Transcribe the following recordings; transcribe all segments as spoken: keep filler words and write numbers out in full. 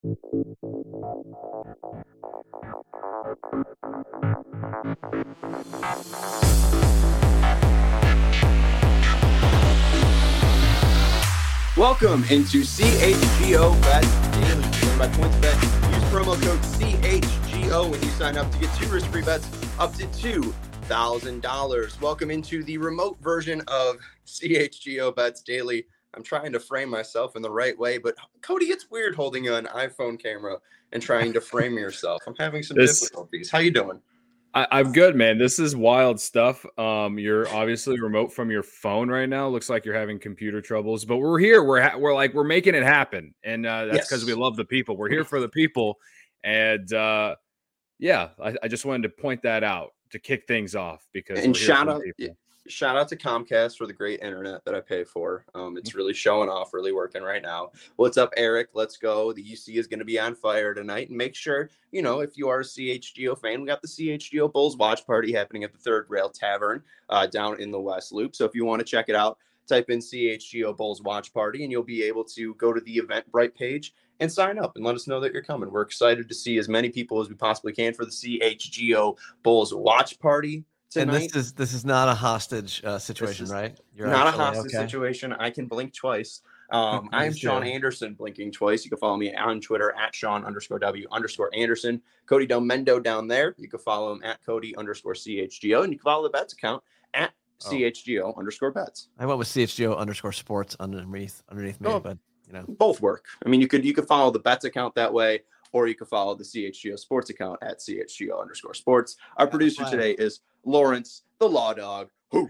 Welcome into C H G O Bet Daily, driven by PointsBet. Use promo code C H G O when you sign up to get two risk-free bets up to two thousand dollars. Welcome into the remote version of C H G O Bets Daily. I'm trying to frame myself in the right way, but Cody, it's weird holding an iPhone camera and trying to frame yourself. I'm having some this, difficulties. How you doing? I, I'm good, man. This is wild stuff. Um, you're obviously remote from your phone right now. Looks like you're having computer troubles, but we're here. We're ha- we're like we're making it happen, and uh, that's because yes. we love the people. We're here for the people, and uh, yeah, I, I just wanted to point that out to kick things off because and we're here shout for out. the people. Shout out to Comcast for the great internet that I pay for. Um, it's really showing off, really working right now. What's up, Eric? Let's go. The U C is going to be on fire tonight. And make sure, you know, if you are a C H G O fan, we got the C H G O Bulls watch party happening at the Third Rail Tavern uh, down in the West Loop. So if you want to check it out, type in C H G O Bulls watch party and you'll be able to go to the Eventbrite page and sign up and let us know that you're coming. We're excited to see as many people as we possibly can for the C H G O Bulls watch party. Tonight. And this is this is not a hostage uh, situation, right? You're not actually, a hostage okay. situation. I can blink twice. Um, I am Sean Anderson, blinking twice. You can follow me on Twitter at Sean underscore W underscore Anderson. Cody Del Mendo down there. You can follow him at Cody underscore C H G O. And you can follow the bets account at oh. C H G O underscore bets. I went with C H G O underscore sports underneath underneath me, oh, but you know. Both work. I mean, you could you could follow the bets account that way, or you can follow the C H G O sports account at C H G O underscore sports. Our yeah, producer today is Lawrence, the Law Dog. uh,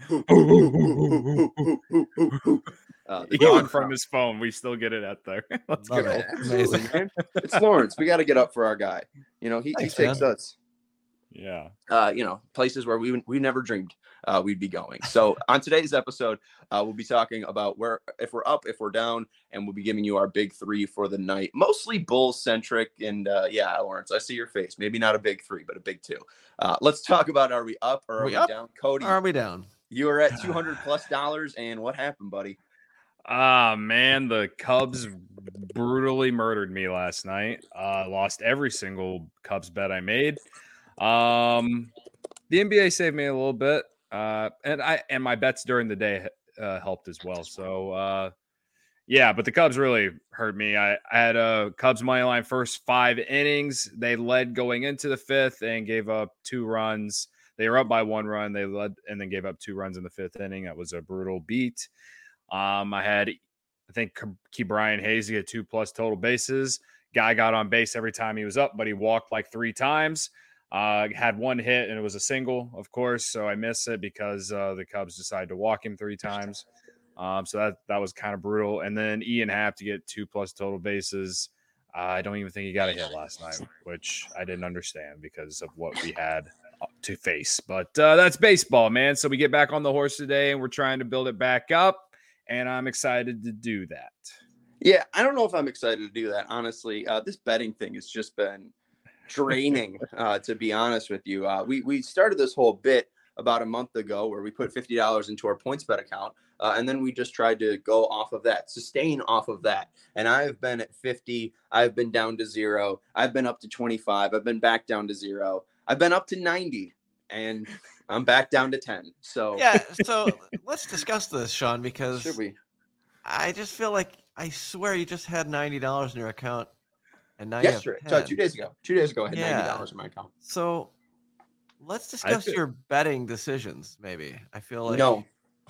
Even from his phone, we still get it out there. Let's go. It. Amazing, man. It's Lawrence. We got to get up for our guy. You know, he, Thanks, he takes man. us. Yeah. Uh, you know, places where we we never dreamed uh, we'd be going. So on today's episode, uh, we'll be talking about where if we're up, if we're down, and we'll be giving you our big three for the night. Mostly Bulls centric, and uh, yeah, Lawrence, I see your face. Maybe not a big three, but a big two. Uh, let's talk about are we up or are, are we, we down? Cody, are we down? You are at two hundred plus dollars, and what happened, buddy? Ah, man, the Cubs brutally murdered me last night. Uh, lost every single Cubs bet I made. Um, the N B A saved me a little bit, uh, and I and my bets during the day uh, helped as well. So, uh, yeah, but the Cubs really hurt me. I, I had a Cubs money line first five innings. They led going into the fifth and gave up two runs. They were up by one run. They led and then gave up two runs in the fifth inning. That was a brutal beat. Um, I had, I think, Key Brian Hayes had two plus total bases. Guy got on base every time he was up, but he walked like three times. Uh, had one hit, and it was a single, of course, so I missed it because uh, the Cubs decided to walk him three times. Um, so that that was kind of brutal. And then Ian Happ to get two plus total bases. Uh, I don't even think he got a hit last night, which I didn't understand because of what we had to face. But uh, that's baseball, man. So we get back on the horse today, and we're trying to build it back up, and I'm excited to do that. Yeah, I don't know if I'm excited to do that, honestly. Uh, this betting thing has just been draining, uh, to be honest with you. Uh, we, we started this whole bit about a month ago where we put fifty dollars into our PointsBet account, uh, and then we just tried to go off of that, sustain off of that. And I've been at fifty. I've been down to zero. I've been up to twenty-five. I've been back down to zero. I've been up to ninety, and I'm back down to ten. So yeah, so let's discuss this, Sean, because should we? I just feel like I swear you just had ninety dollars in your account. And now yesterday, so two days ago, two days ago, I had yeah. ninety dollars in my account. So let's discuss feel, your betting decisions. Maybe I feel like no,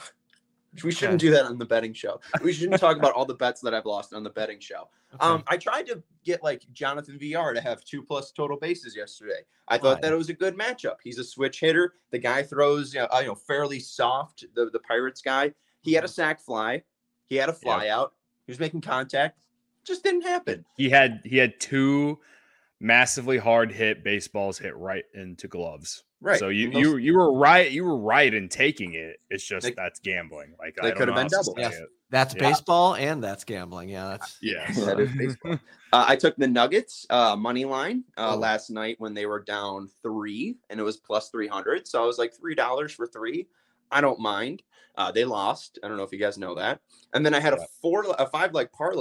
we shouldn't okay. do that on the betting show. We shouldn't talk about all the bets that I've lost on the betting show. Okay. Um, I tried to get like Jonathan V R to have two plus total bases yesterday. I thought Why? that it was a good matchup. He's a switch hitter. The guy throws, you know, you know fairly soft. The the Pirates guy. He had a sac fly. He had a fly yep. out. He was making contact. Just didn't happen. He had he had two massively hard hit baseballs hit right into gloves. Right. So you you you were right you were right in taking it. It's just they, that's gambling. Like they could have been double. Yes. That's yeah. baseball and that's gambling. Yeah, that's yeah. that is baseball. uh, I took the Nuggets uh, money line uh, oh. last night when they were down three and it was plus three hundred. So I was like three dollars for three. I don't mind. Uh, they lost. I don't know if you guys know that. And then I had a four, a five leg parlay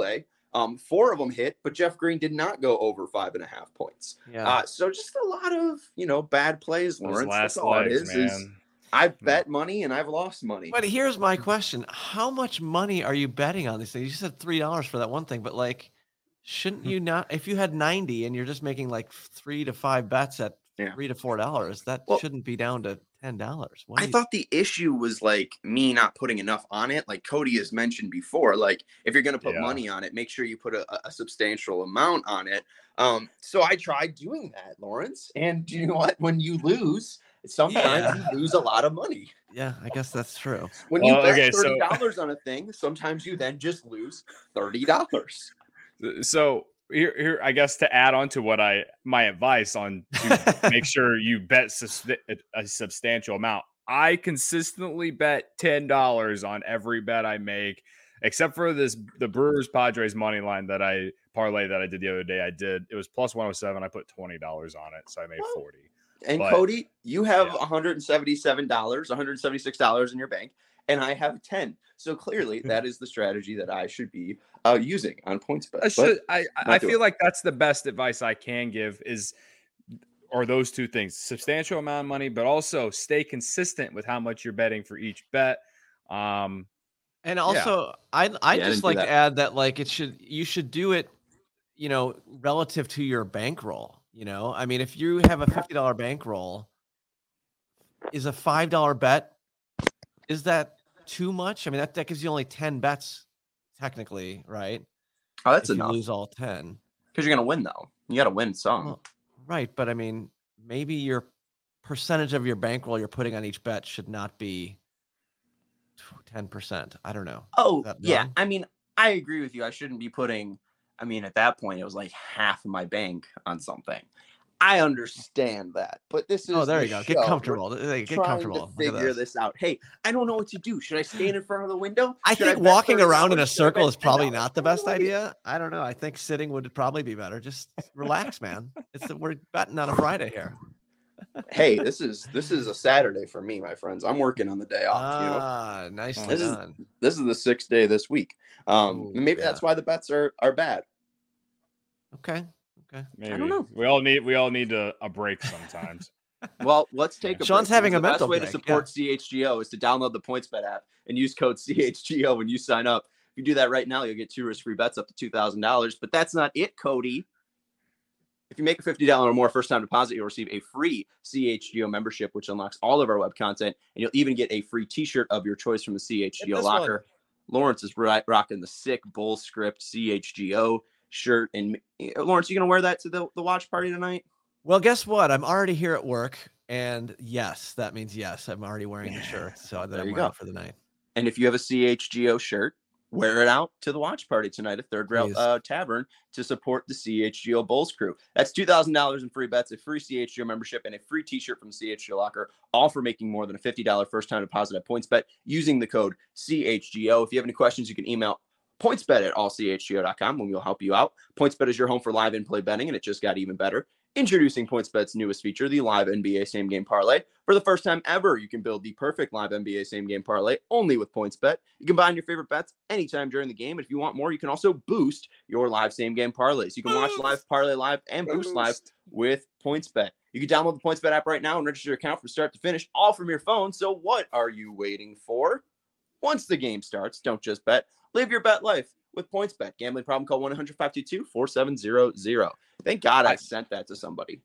Um, four of them hit, but Jeff Green did not go over five and a half points. Yeah. Uh, so just a lot of, you know, bad plays, Those Lawrence. last That's all it legs, is, man. is I've bet money and I've lost money. But here's my question. How much money are you betting on these things? You said three dollars for that one thing, but like, shouldn't you not, if you had ninety and you're just making like three to five bets at Yeah. three to four dollars, that Well, shouldn't be down to ten dollars. I thought the issue was like me not putting enough on it. Like Cody has mentioned before, like if you're going to put Yeah. money on it, make sure you put a, a substantial amount on it. Um, so I tried doing that, Lawrence. And you know what? When you lose, sometimes Yeah. you lose a lot of money. Yeah, I guess that's true. When you Well, bet okay, so- thirty dollars on a thing, sometimes you then just lose thirty dollars. So here, here, I guess to add on to what I my advice on to make sure you bet sus- a substantial amount. I consistently bet ten dollars on every bet I make, except for this the Brewers Padres money line that I parlay that I did the other day. I did it was plus one oh seven. I put twenty dollars on it, so I made Well, forty. And But- Cody, you have yeah. one hundred seventy-seven dollars, one hundred seventy-six dollars in your bank, and I have ten. So clearly, that is the strategy that I should be uh, using on PointsBet. I should. I I do feel it. like that's the best advice I can give is, or those two things: substantial amount of money, but also stay consistent with how much you're betting for each bet. Um, And also, I I Yeah, I just didn't do like that. to add that like it should you should do it, you know, relative to your bankroll. You know, I mean, if you have a fifty dollar bankroll, is a five dollar bet, is that too much? I mean, that, that gives you only ten bets, technically, right? Oh, that's if enough. you lose all ten. Because you're going to win, though. You got to win some. Well, right, but I mean, maybe your percentage of your bankroll you're putting on each bet should not be ten percent. I don't know. oh, that yeah. wrong? I mean, I agree with you. I shouldn't be putting, I mean, at that point, it was like half of my bank on something. I understand that. But this is Oh, there the you go. show. Get We're comfortable. Hey, Get trying comfortable. to Look at figure this. this out. Hey, I don't know what to do. Should I stand in front of the window? I Should think bet walking around in a thirty dollars? Should I circle bet is probably ten dollars? not the best I don't know. idea. I don't know. I think sitting would probably be better. Just relax, man. It's we're betting on a Friday here. Hey, this is this is a Saturday for me, my friends. I'm working on the day off. You know, Ah, nicely This is- done. this is the sixth day this week. Um, Ooh, maybe yeah. that's why the bets are are bad. Okay. Okay. maybe don't know. we all need we all need a, a break sometimes. Well, let's take a Sean's break, having because a the mental best way break, to support C H G O is to download the PointsBet app and use code C H G O when you sign up. If you do that right now, you'll get two risk-free bets up to two thousand dollars. But that's not it, Cody. If you make a fifty dollars or more first-time deposit, you'll receive a free C H G O membership, which unlocks all of our web content, and you'll even get a free T-shirt of your choice from the C H G O Get this one. locker. Lawrence is ri- rocking the sick bull script C H G O shirt. And uh, Lawrence, you gonna wear that to the, the watch party tonight? Well, guess what? I'm already here at work, and yes, that means yes. I'm already wearing the shirt, so that There I'm you wearing go. for the night. And if you have a C H G O shirt, wear it out to the watch party tonight at Third Rail Please. uh, Tavern to support the C H G O Bulls crew. That's two thousand dollars in free bets, a free C H G O membership, and a free T-shirt from the C H G O locker, all for making more than a fifty dollars first-time deposit at PointsBet using the code C H G O. If you have any questions, you can email pointsbet at all c h g o dot com and we'll help you out. PointsBet is your home for live in-play betting, and it just got even better. Introducing PointsBet's newest feature, the live N B A same game parlay. For the first time ever, you can build the perfect live N B A same game parlay only with PointsBet. You can combine your favorite bets anytime during the game. If you want more, you can also boost your live same game parlays. You can watch live, parlay live, and boost live with PointsBet. You can download the PointsBet app right now and register your account from start to finish, all from your phone. So what are you waiting for? Once the game starts, don't just bet. Live your bet life with PointsBet. Gambling problem, call one eight hundred five two two four seven zero zero. Thank God I sent that to somebody.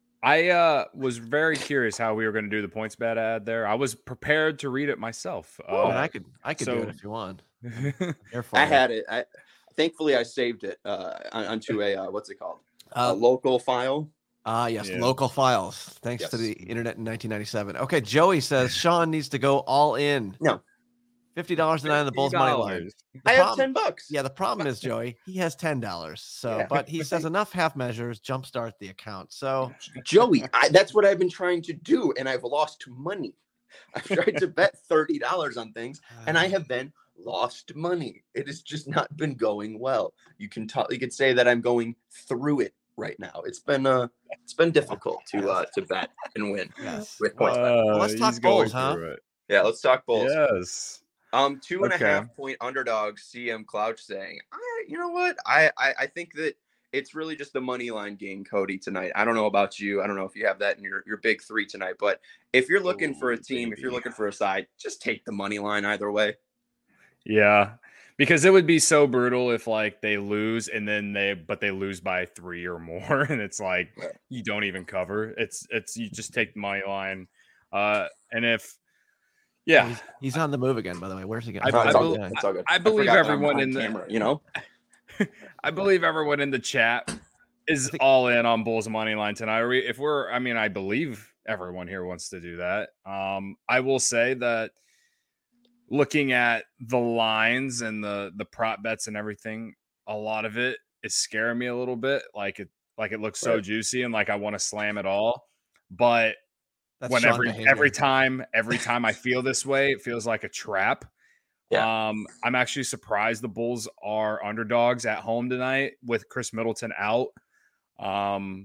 I uh, was very curious how we were going to do the points bet ad there. I was prepared to read it myself. Oh, Uh, and I could I could do so- it if you want. Here for I you. had it. I thankfully I saved it uh, on- onto a uh, what's it called? a Uh, local file. Ah, yes, Yeah. local files. Thanks to Yes. the internet in nineteen ninety-seven. Okay, Joey says Sean needs to go all in. No. fifty dollars tonight on the Bulls money line. $50. The I have problem- ten bucks. Yeah, the problem is Joey. He has ten dollars. So, Yeah. but he says enough half measures jumpstart the account. So, Joey, I, that's what I've been trying to do, and I've lost money. I've tried to bet thirty dollars on things, and I have been lost money. It has just not been going well. You can talk. You could say that I'm going through it right now. It's been uh, it's been difficult to uh to bet and win yes. with points. bet. let's Uh, talk he's going Bulls, huh? through it. Yeah, let's talk Bulls. Yes. Um, two and a Okay. half point underdog. C M Clouch saying, I, you know what? I, I, I think that it's really just the money line game, Cody, tonight. I don't know about you. I don't know if you have that in your, your big three tonight, but if you're looking for a Ooh, team, if you're baby. looking for a side, just take the money line either way. Yeah, because it would be so brutal if like they lose and then they but they lose by three or more, and it's like Right. you don't even cover. It's it's you just take the money line, uh, and if yeah, Oh, he's, he's on the move again. By the way, where's he going? I, No, I, it's all bel- good. It's all good. I believe forgot that I'm everyone on in the camera, you know? I believe everyone in the chat is think- all in on Bulls money line tonight. Are we, if we're, I mean, I believe everyone here wants to do that. Um, I will say that looking at the lines and the the prop bets and everything, a lot of it is scaring me a little bit. Like it, like it looks so Right. juicy and like I want to slam it all, but That's when Sean every behavior. every time every time I feel this way, it feels like a trap. Yeah. Um, I'm actually surprised the Bulls are underdogs at home tonight with Chris Middleton out. Um,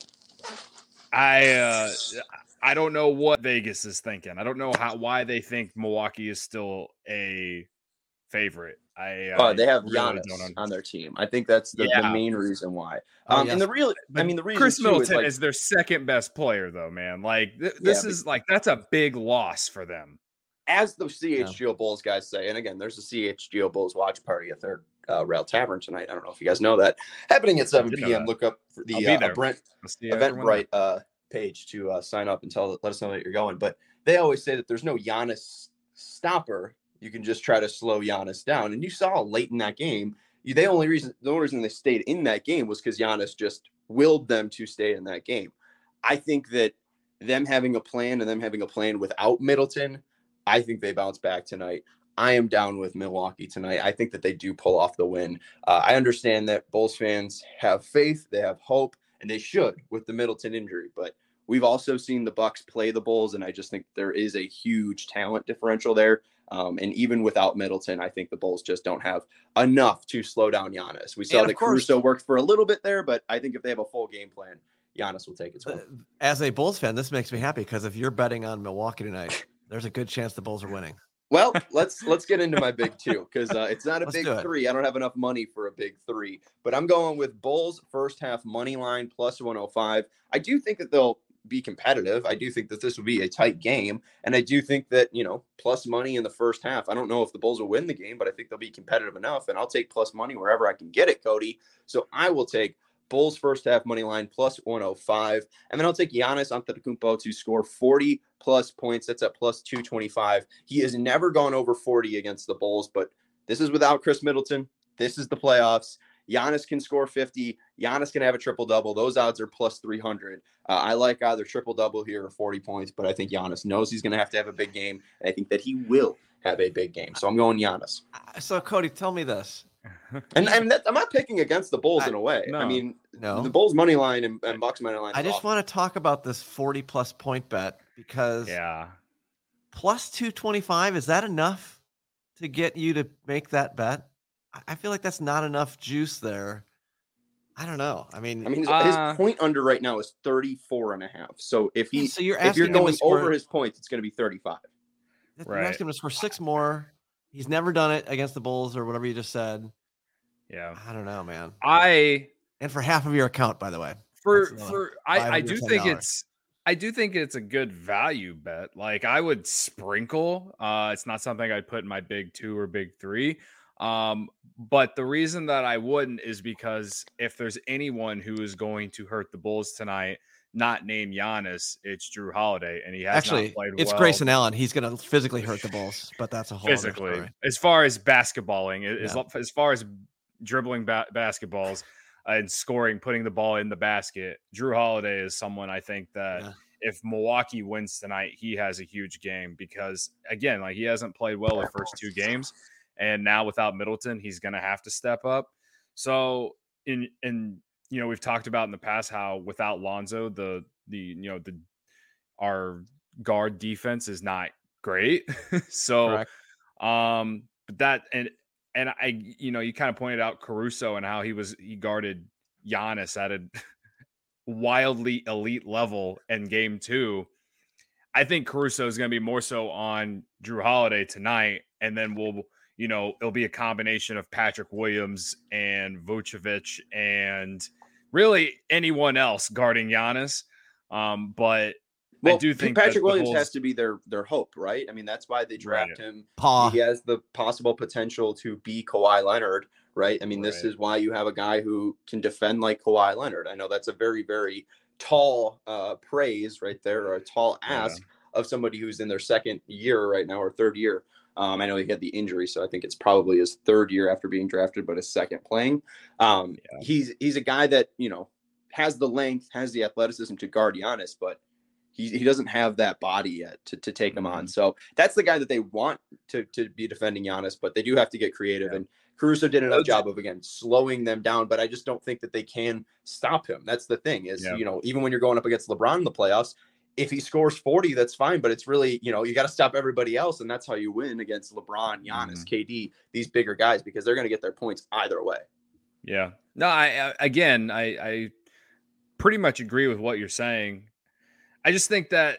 I uh, I don't know what Vegas is thinking. I don't know how why they think Milwaukee is still a favorite. I Oh, I they have really Giannis don't understand. on their team. I think that's the, the Yeah. main reason why. Oh, Um, yes. and the real, I But mean, the reason Chris too Middleton is like, is their second best player, though, man. Like th- this Yeah, but- is like that's a big loss for them. as the C H G O Bulls guys say, and again, there's a C H G O Bulls watch party at their uh, Rail Tavern tonight. I don't know if you guys know that. Happening at seven did know p.m. that. Look up for I'll the be uh, there. Brent I'll see everyone there. Eventbrite uh, page to uh, sign up and tell let us know that you're going. But they always say that there's no Giannis stopper. You can just try to slow Giannis down. And you saw late in that game, you, they only reason the only reason they stayed in that game was because Giannis just willed them to stay in that game. I think that them having a plan and them having a plan without Middleton, I think they bounce back tonight. I am down with Milwaukee tonight. I think that they do pull off the win. Uh, I understand that Bulls fans have faith, they have hope, and they should with the Middleton injury. But we've also seen the Bucks play the Bulls, and I just think there is a huge talent differential there. Um, and even without Middleton, I think the Bulls just don't have enough to slow down Giannis. We saw And of that course- Caruso worked for a little bit there, but I think if they have a full game plan, Giannis will take it. Uh, As a Bulls fan, this makes me happy because if you're betting on Milwaukee tonight, there's a good chance the Bulls are winning. Well, let's let's get into my big two because uh, it's not a Let's big do it. three. I don't have enough money for a big three, but I'm going with Bulls first half money line plus one oh five. I do think that they'll be competitive. I do think that this will be a tight game, and I do think that, you know, plus money in the first half. I don't know if the Bulls will win the game, but I think they'll be competitive enough, and I'll take plus money wherever I can get it, Cody. So I will take Bulls first half money line plus one oh five, and then I'll take Giannis Antetokounmpo to score forty plus points. That's at plus two twenty-five. He has never gone over forty against the Bulls, but this is without Chris Middleton. This is the playoffs. Giannis can score fifty. Giannis can have a triple-double. Those odds are plus three hundred. Uh, I like either triple-double here or forty points, but I think Giannis knows he's going to have to have a big game, and I think that he will have a big game. So I'm going Giannis. Uh, So, Cody, tell me this. And, and that, I'm not picking against the Bulls I- in a way. no. I mean, No. the Bulls money line and, and Bucks money line. I is just awful. want to talk about this forty plus point bet because Yeah. plus two twenty-five, is that enough to get you to make that bet? I- I feel like that's not enough juice there. I don't know. I mean, I mean, his, Uh, his point under right now is thirty-four and a half. So if he, so you're if you're asking him to going score, over his points, it's going to be thirty-five. you're Right. asking him to score six more. He's never done it against the Bulls or whatever you just said. Yeah. I don't know, man. I And for half of your account, by the way. for That's another for I, I five do hundred think ten dollars. it's I do think it's a good value bet. Like I would sprinkle. Uh it's not something I'd put in my big two or big three. Um, but the reason that I wouldn't is because if there's anyone who is going to hurt the Bulls tonight, not named Giannis, it's Drew Holiday, and he has Actually, not played it's well Grayson Allen. He's going to physically hurt the Bulls, but that's a whole other physically. story. As far as basketballing, as, Yeah. as far as dribbling ba- basketballs and scoring, putting the ball in the basket, Drew Holiday is someone I think that Yeah. if Milwaukee wins tonight, he has a huge game because, again, like he hasn't played well the first two games, and now without Middleton, he's going to have to step up. So, in in you know, we've talked about in the past how without Lonzo, the the you know the our guard defense is not great. so, Correct. um, but that and and I, you know, you kind of pointed out Caruso and how he was he guarded Giannis at a wildly elite level in game two. I think Caruso is going to be more so on Drew Holiday tonight, and then we'll, you know, it'll be a combination of Patrick Williams and Vucevic and really anyone else guarding Giannis. Um, but well, I do think Patrick Williams Bulls, has to be their their hope, right? I mean, that's why they draft right. him. Paw. He has the possible potential to be Kawhi Leonard, right? I mean, this Right. is why you have a guy who can defend like Kawhi Leonard. I know that's a very, very tall uh, praise right there, or a tall ask yeah. of somebody who's in their second year right now or third year. Um, I know he had the injury, so I think it's probably his third year after being drafted, but his second playing. Um, yeah. He's he's a guy that, you know, has the length, has the athleticism to guard Giannis, but he, he doesn't have that body yet to, to take him on. So that's the guy that they want to, to be defending Giannis, but they do have to get creative. Yeah. And Caruso did enough job of, again, slowing them down, but I just don't think that they can stop him. That's the thing is, yeah. you know, even when you're going up against LeBron in the playoffs, if he scores forty, that's fine, but it's really, you know, you got to stop everybody else. And that's how you win against LeBron, Giannis, mm-hmm. K D, these bigger guys, because they're going to get their points either way. Yeah. No, I, I again, I, I pretty much agree with what you're saying. I just think that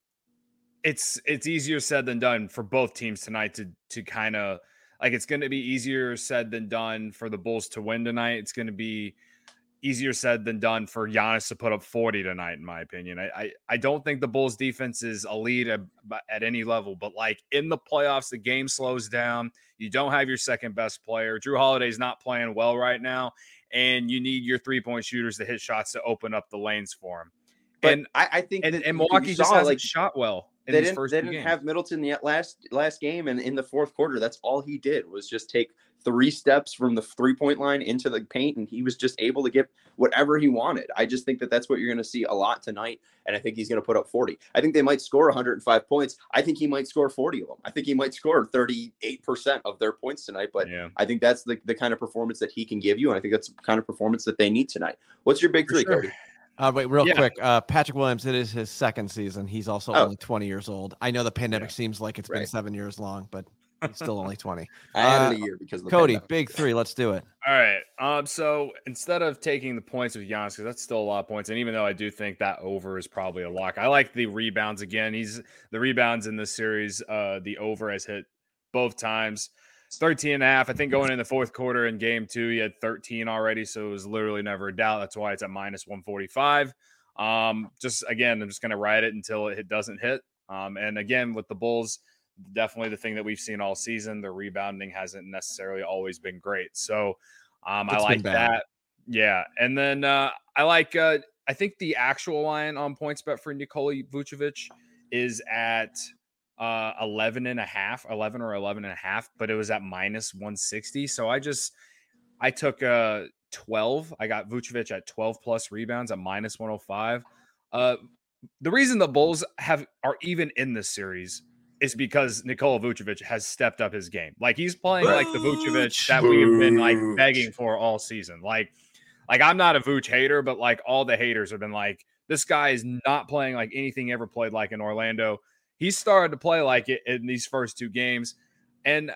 it's it's easier said than done for both teams tonight to to kind of like it's going to be easier said than done for the Bulls to win tonight. It's going to be easier said than done for Giannis to put up forty tonight, in my opinion. I I, I don't think the Bulls defense is elite at, at any level, but like in the playoffs, the game slows down. You don't have your second best player. Drew Holiday's not playing well right now, and you need your three point shooters to hit shots to open up the lanes for him. But and I, I think and, that and Milwaukee just hasn't like, shot well in they these didn't, first they two didn't games. have Middleton yet last last game, and in the fourth quarter, that's all he did was just take three steps from the three-point line into the paint, and he was just able to get whatever he wanted. I just think that that's what you're going to see a lot tonight, and I think he's going to put up forty. I think they might score one hundred five points. I think he might score forty of them. I think he might score thirty-eight percent of their points tonight, but yeah. I think that's the, the kind of performance that he can give you, and I think that's the kind of performance that they need tonight. What's your big For three, sure. Cody? Uh, wait, real Yeah. quick. Uh, Patrick Williams, it is his second season. He's also Oh. only twenty years old. I know the pandemic Yeah. seems like it's been Right. seven years long, but he's still only twenty. I added Uh, a year because of the Cody, pandemic. big three. Let's do it. All right. Um. So instead of taking the points with Giannis, because that's still a lot of points, and even though I do think that over is probably a lock, I like the rebounds again. He's the rebounds in this series. Uh, the over has hit both times. thirteen and a half. I think going in the fourth quarter in game two, he had thirteen already, so it was literally never a doubt. That's why it's at minus one forty-five. Um, just again, I'm just going to ride it until it doesn't hit. Um, and again, with the Bulls, definitely the thing that we've seen all season, the rebounding hasn't necessarily always been great. So um, I It's like been bad. that. Yeah. And then uh, I like, uh, I think the actual line on points bet for Nikola Vucevic is at uh, eleven and a half, eleven or eleven and a half, but it was at minus one sixty. So I just, I took uh twelve. I got Vucevic at twelve plus rebounds at minus one oh five. Uh, the reason the Bulls have are even in this series is because Nikola Vucevic has stepped up his game. Like he's playing like the Vucevic that we have been like begging for all season. Like, like I'm not a Vuce hater, but like all the haters have been like, this guy is not playing like anything he ever played like in Orlando. He started to play like it in these first two games, and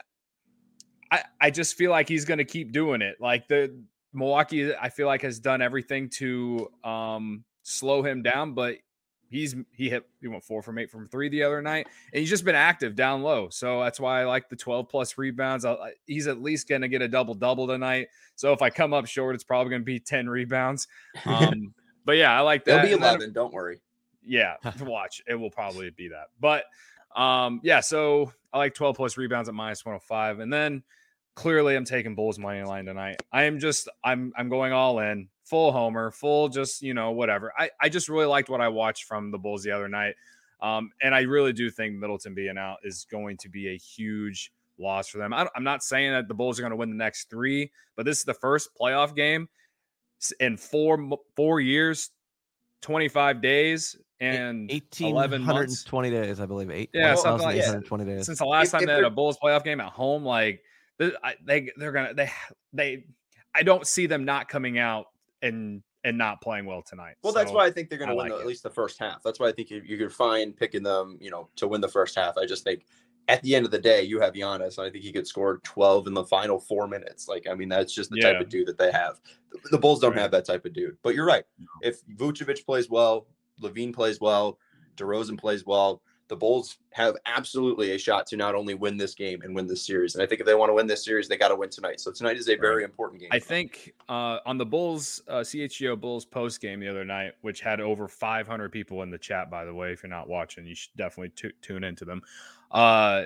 I I just feel like he's going to keep doing it. Like the Milwaukee, I feel like, has done everything to um, slow him down, but he's he hit he went four from eight from three the other night, and he's just been active down low. So that's why I like the twelve plus rebounds. I, he's at least going to get a double double tonight. So if I come up short, it's probably going to be ten rebounds. Um, but yeah, I like that. It'll be And then- eleven. Don't worry. yeah, watch. It will probably be that. But um, yeah, so I like twelve plus rebounds at minus one oh five, and then. Clearly, I'm taking Bulls money line tonight. I am just, I'm, I'm going all in, full homer, full, just you know, whatever. I, I just really liked what I watched from the Bulls the other night, um, and I really do think Middleton being out is going to be a huge loss for them. I, I'm not saying that the Bulls are going to win the next three, but this is the first playoff game in four four years, twenty-five days, and eleven months. twenty days, I believe. Eight. Yeah, something like that. twenty days. Since the last If- time if they had a they're- Bulls playoff game at home, like they they're gonna they they I don't see them not coming out and and not playing well tonight. Well, that's So, why I think they're going I to win like the, it. at least the first half. That's why I think you, you could find picking them, you know, to win the first half. I just think at the end of the day, you have Giannis. And I think he could score twelve in the final four minutes. Like, I mean, that's just the Yeah. type of dude that they have. The, the Bulls don't Right. have that type of dude. But you're right. If Vucevic plays well, Levine plays well, DeRozan plays well, the Bulls have absolutely a shot to not only win this game and win this series. And I think if they want to win this series, they got to win tonight. So tonight is a very Right. important game. I think uh, on the Bulls, uh, C H G O Bulls post game the other night, which had over five hundred people in the chat, by the way, if you're not watching, you should definitely t- tune into them. Uh,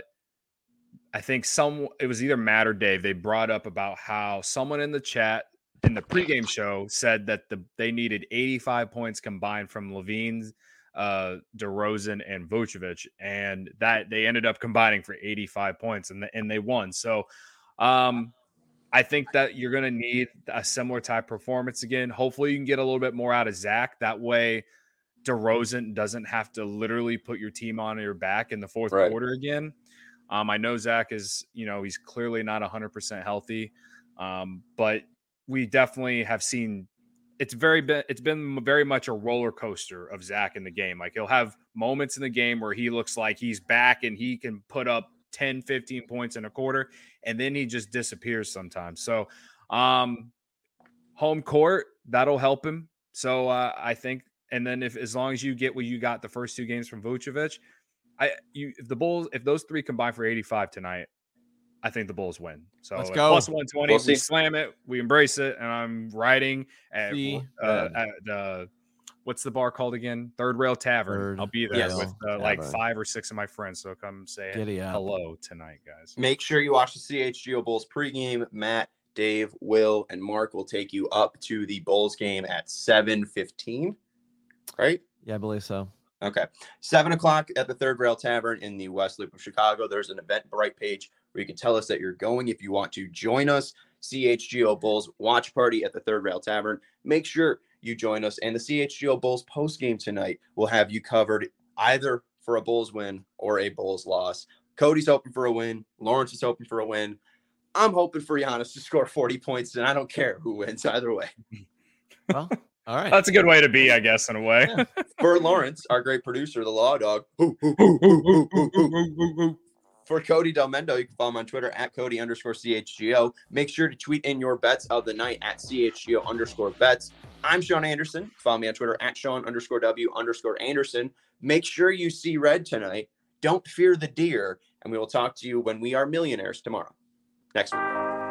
I think some, it was either Matt or Dave, they brought up about how someone in the chat in the pregame show said that the they needed eighty-five points combined from Levine's, uh, DeRozan, and Vucevic, and that they ended up combining for eighty-five points, and, the, and they won. So um, I think that you're going to need a similar type performance again. Hopefully you can get a little bit more out of Zach. That way DeRozan doesn't have to literally put your team on your back in the fourth Right. quarter again. Um, I know Zach is, you know, he's clearly not one hundred percent healthy, um, but we definitely have seen it's very been it's been very much a roller coaster of Zach in the game. Like he'll have moments in the game where he looks like he's back and he can put up ten, fifteen points in a quarter, and then he just disappears sometimes. So um, home court, that'll help him. So uh, I think, and then if as long as you get what you got the first two games from Vucevic, I you if the Bulls, if those three combine for eighty-five tonight, I think the Bulls win. So Let's at go. plus one twenty, We'll we see. slam it, we embrace it, and I'm riding at, See, uh, red. at uh, what's the bar called again? Third Rail Tavern. Third I'll be there Yes. with uh, like Tavern. five or six of my friends. So come say Giddy up. hello tonight, guys. Make sure you watch the C H G O Bulls pregame. Matt, Dave, Will, and Mark will take you up to the Bulls game at seven fifteen. Right? Yeah, I believe so. Okay. Seven o'clock at the Third Rail Tavern in the West Loop of Chicago. There's an Eventbrite page where you can tell us that you're going if you want to join us. C H G O Bulls watch party at the Third Rail Tavern. Make sure you join us. And the C H G O Bulls post game tonight will have you covered either for a Bulls win or a Bulls loss. Cody's hoping for a win. Lawrence is hoping for a win. I'm hoping for Giannis to score forty points, and I don't care who wins either way. Well, all right. That's a good way to be, I guess, in a way. Yeah. For Lawrence, our great producer, the Law Dog. Hoo, hoo, hoo, hoo, hoo, hoo, hoo, hoo. For Cody Del Mendo, you can follow him on Twitter at Cody underscore C H G O. Make sure to tweet in your bets of the night at C H G O underscore bets. I'm Sean Anderson. Follow me on Twitter at Sean underscore W underscore Anderson. Make sure you see red tonight. Don't fear the deer. And we will talk to you when we are millionaires tomorrow. Next week.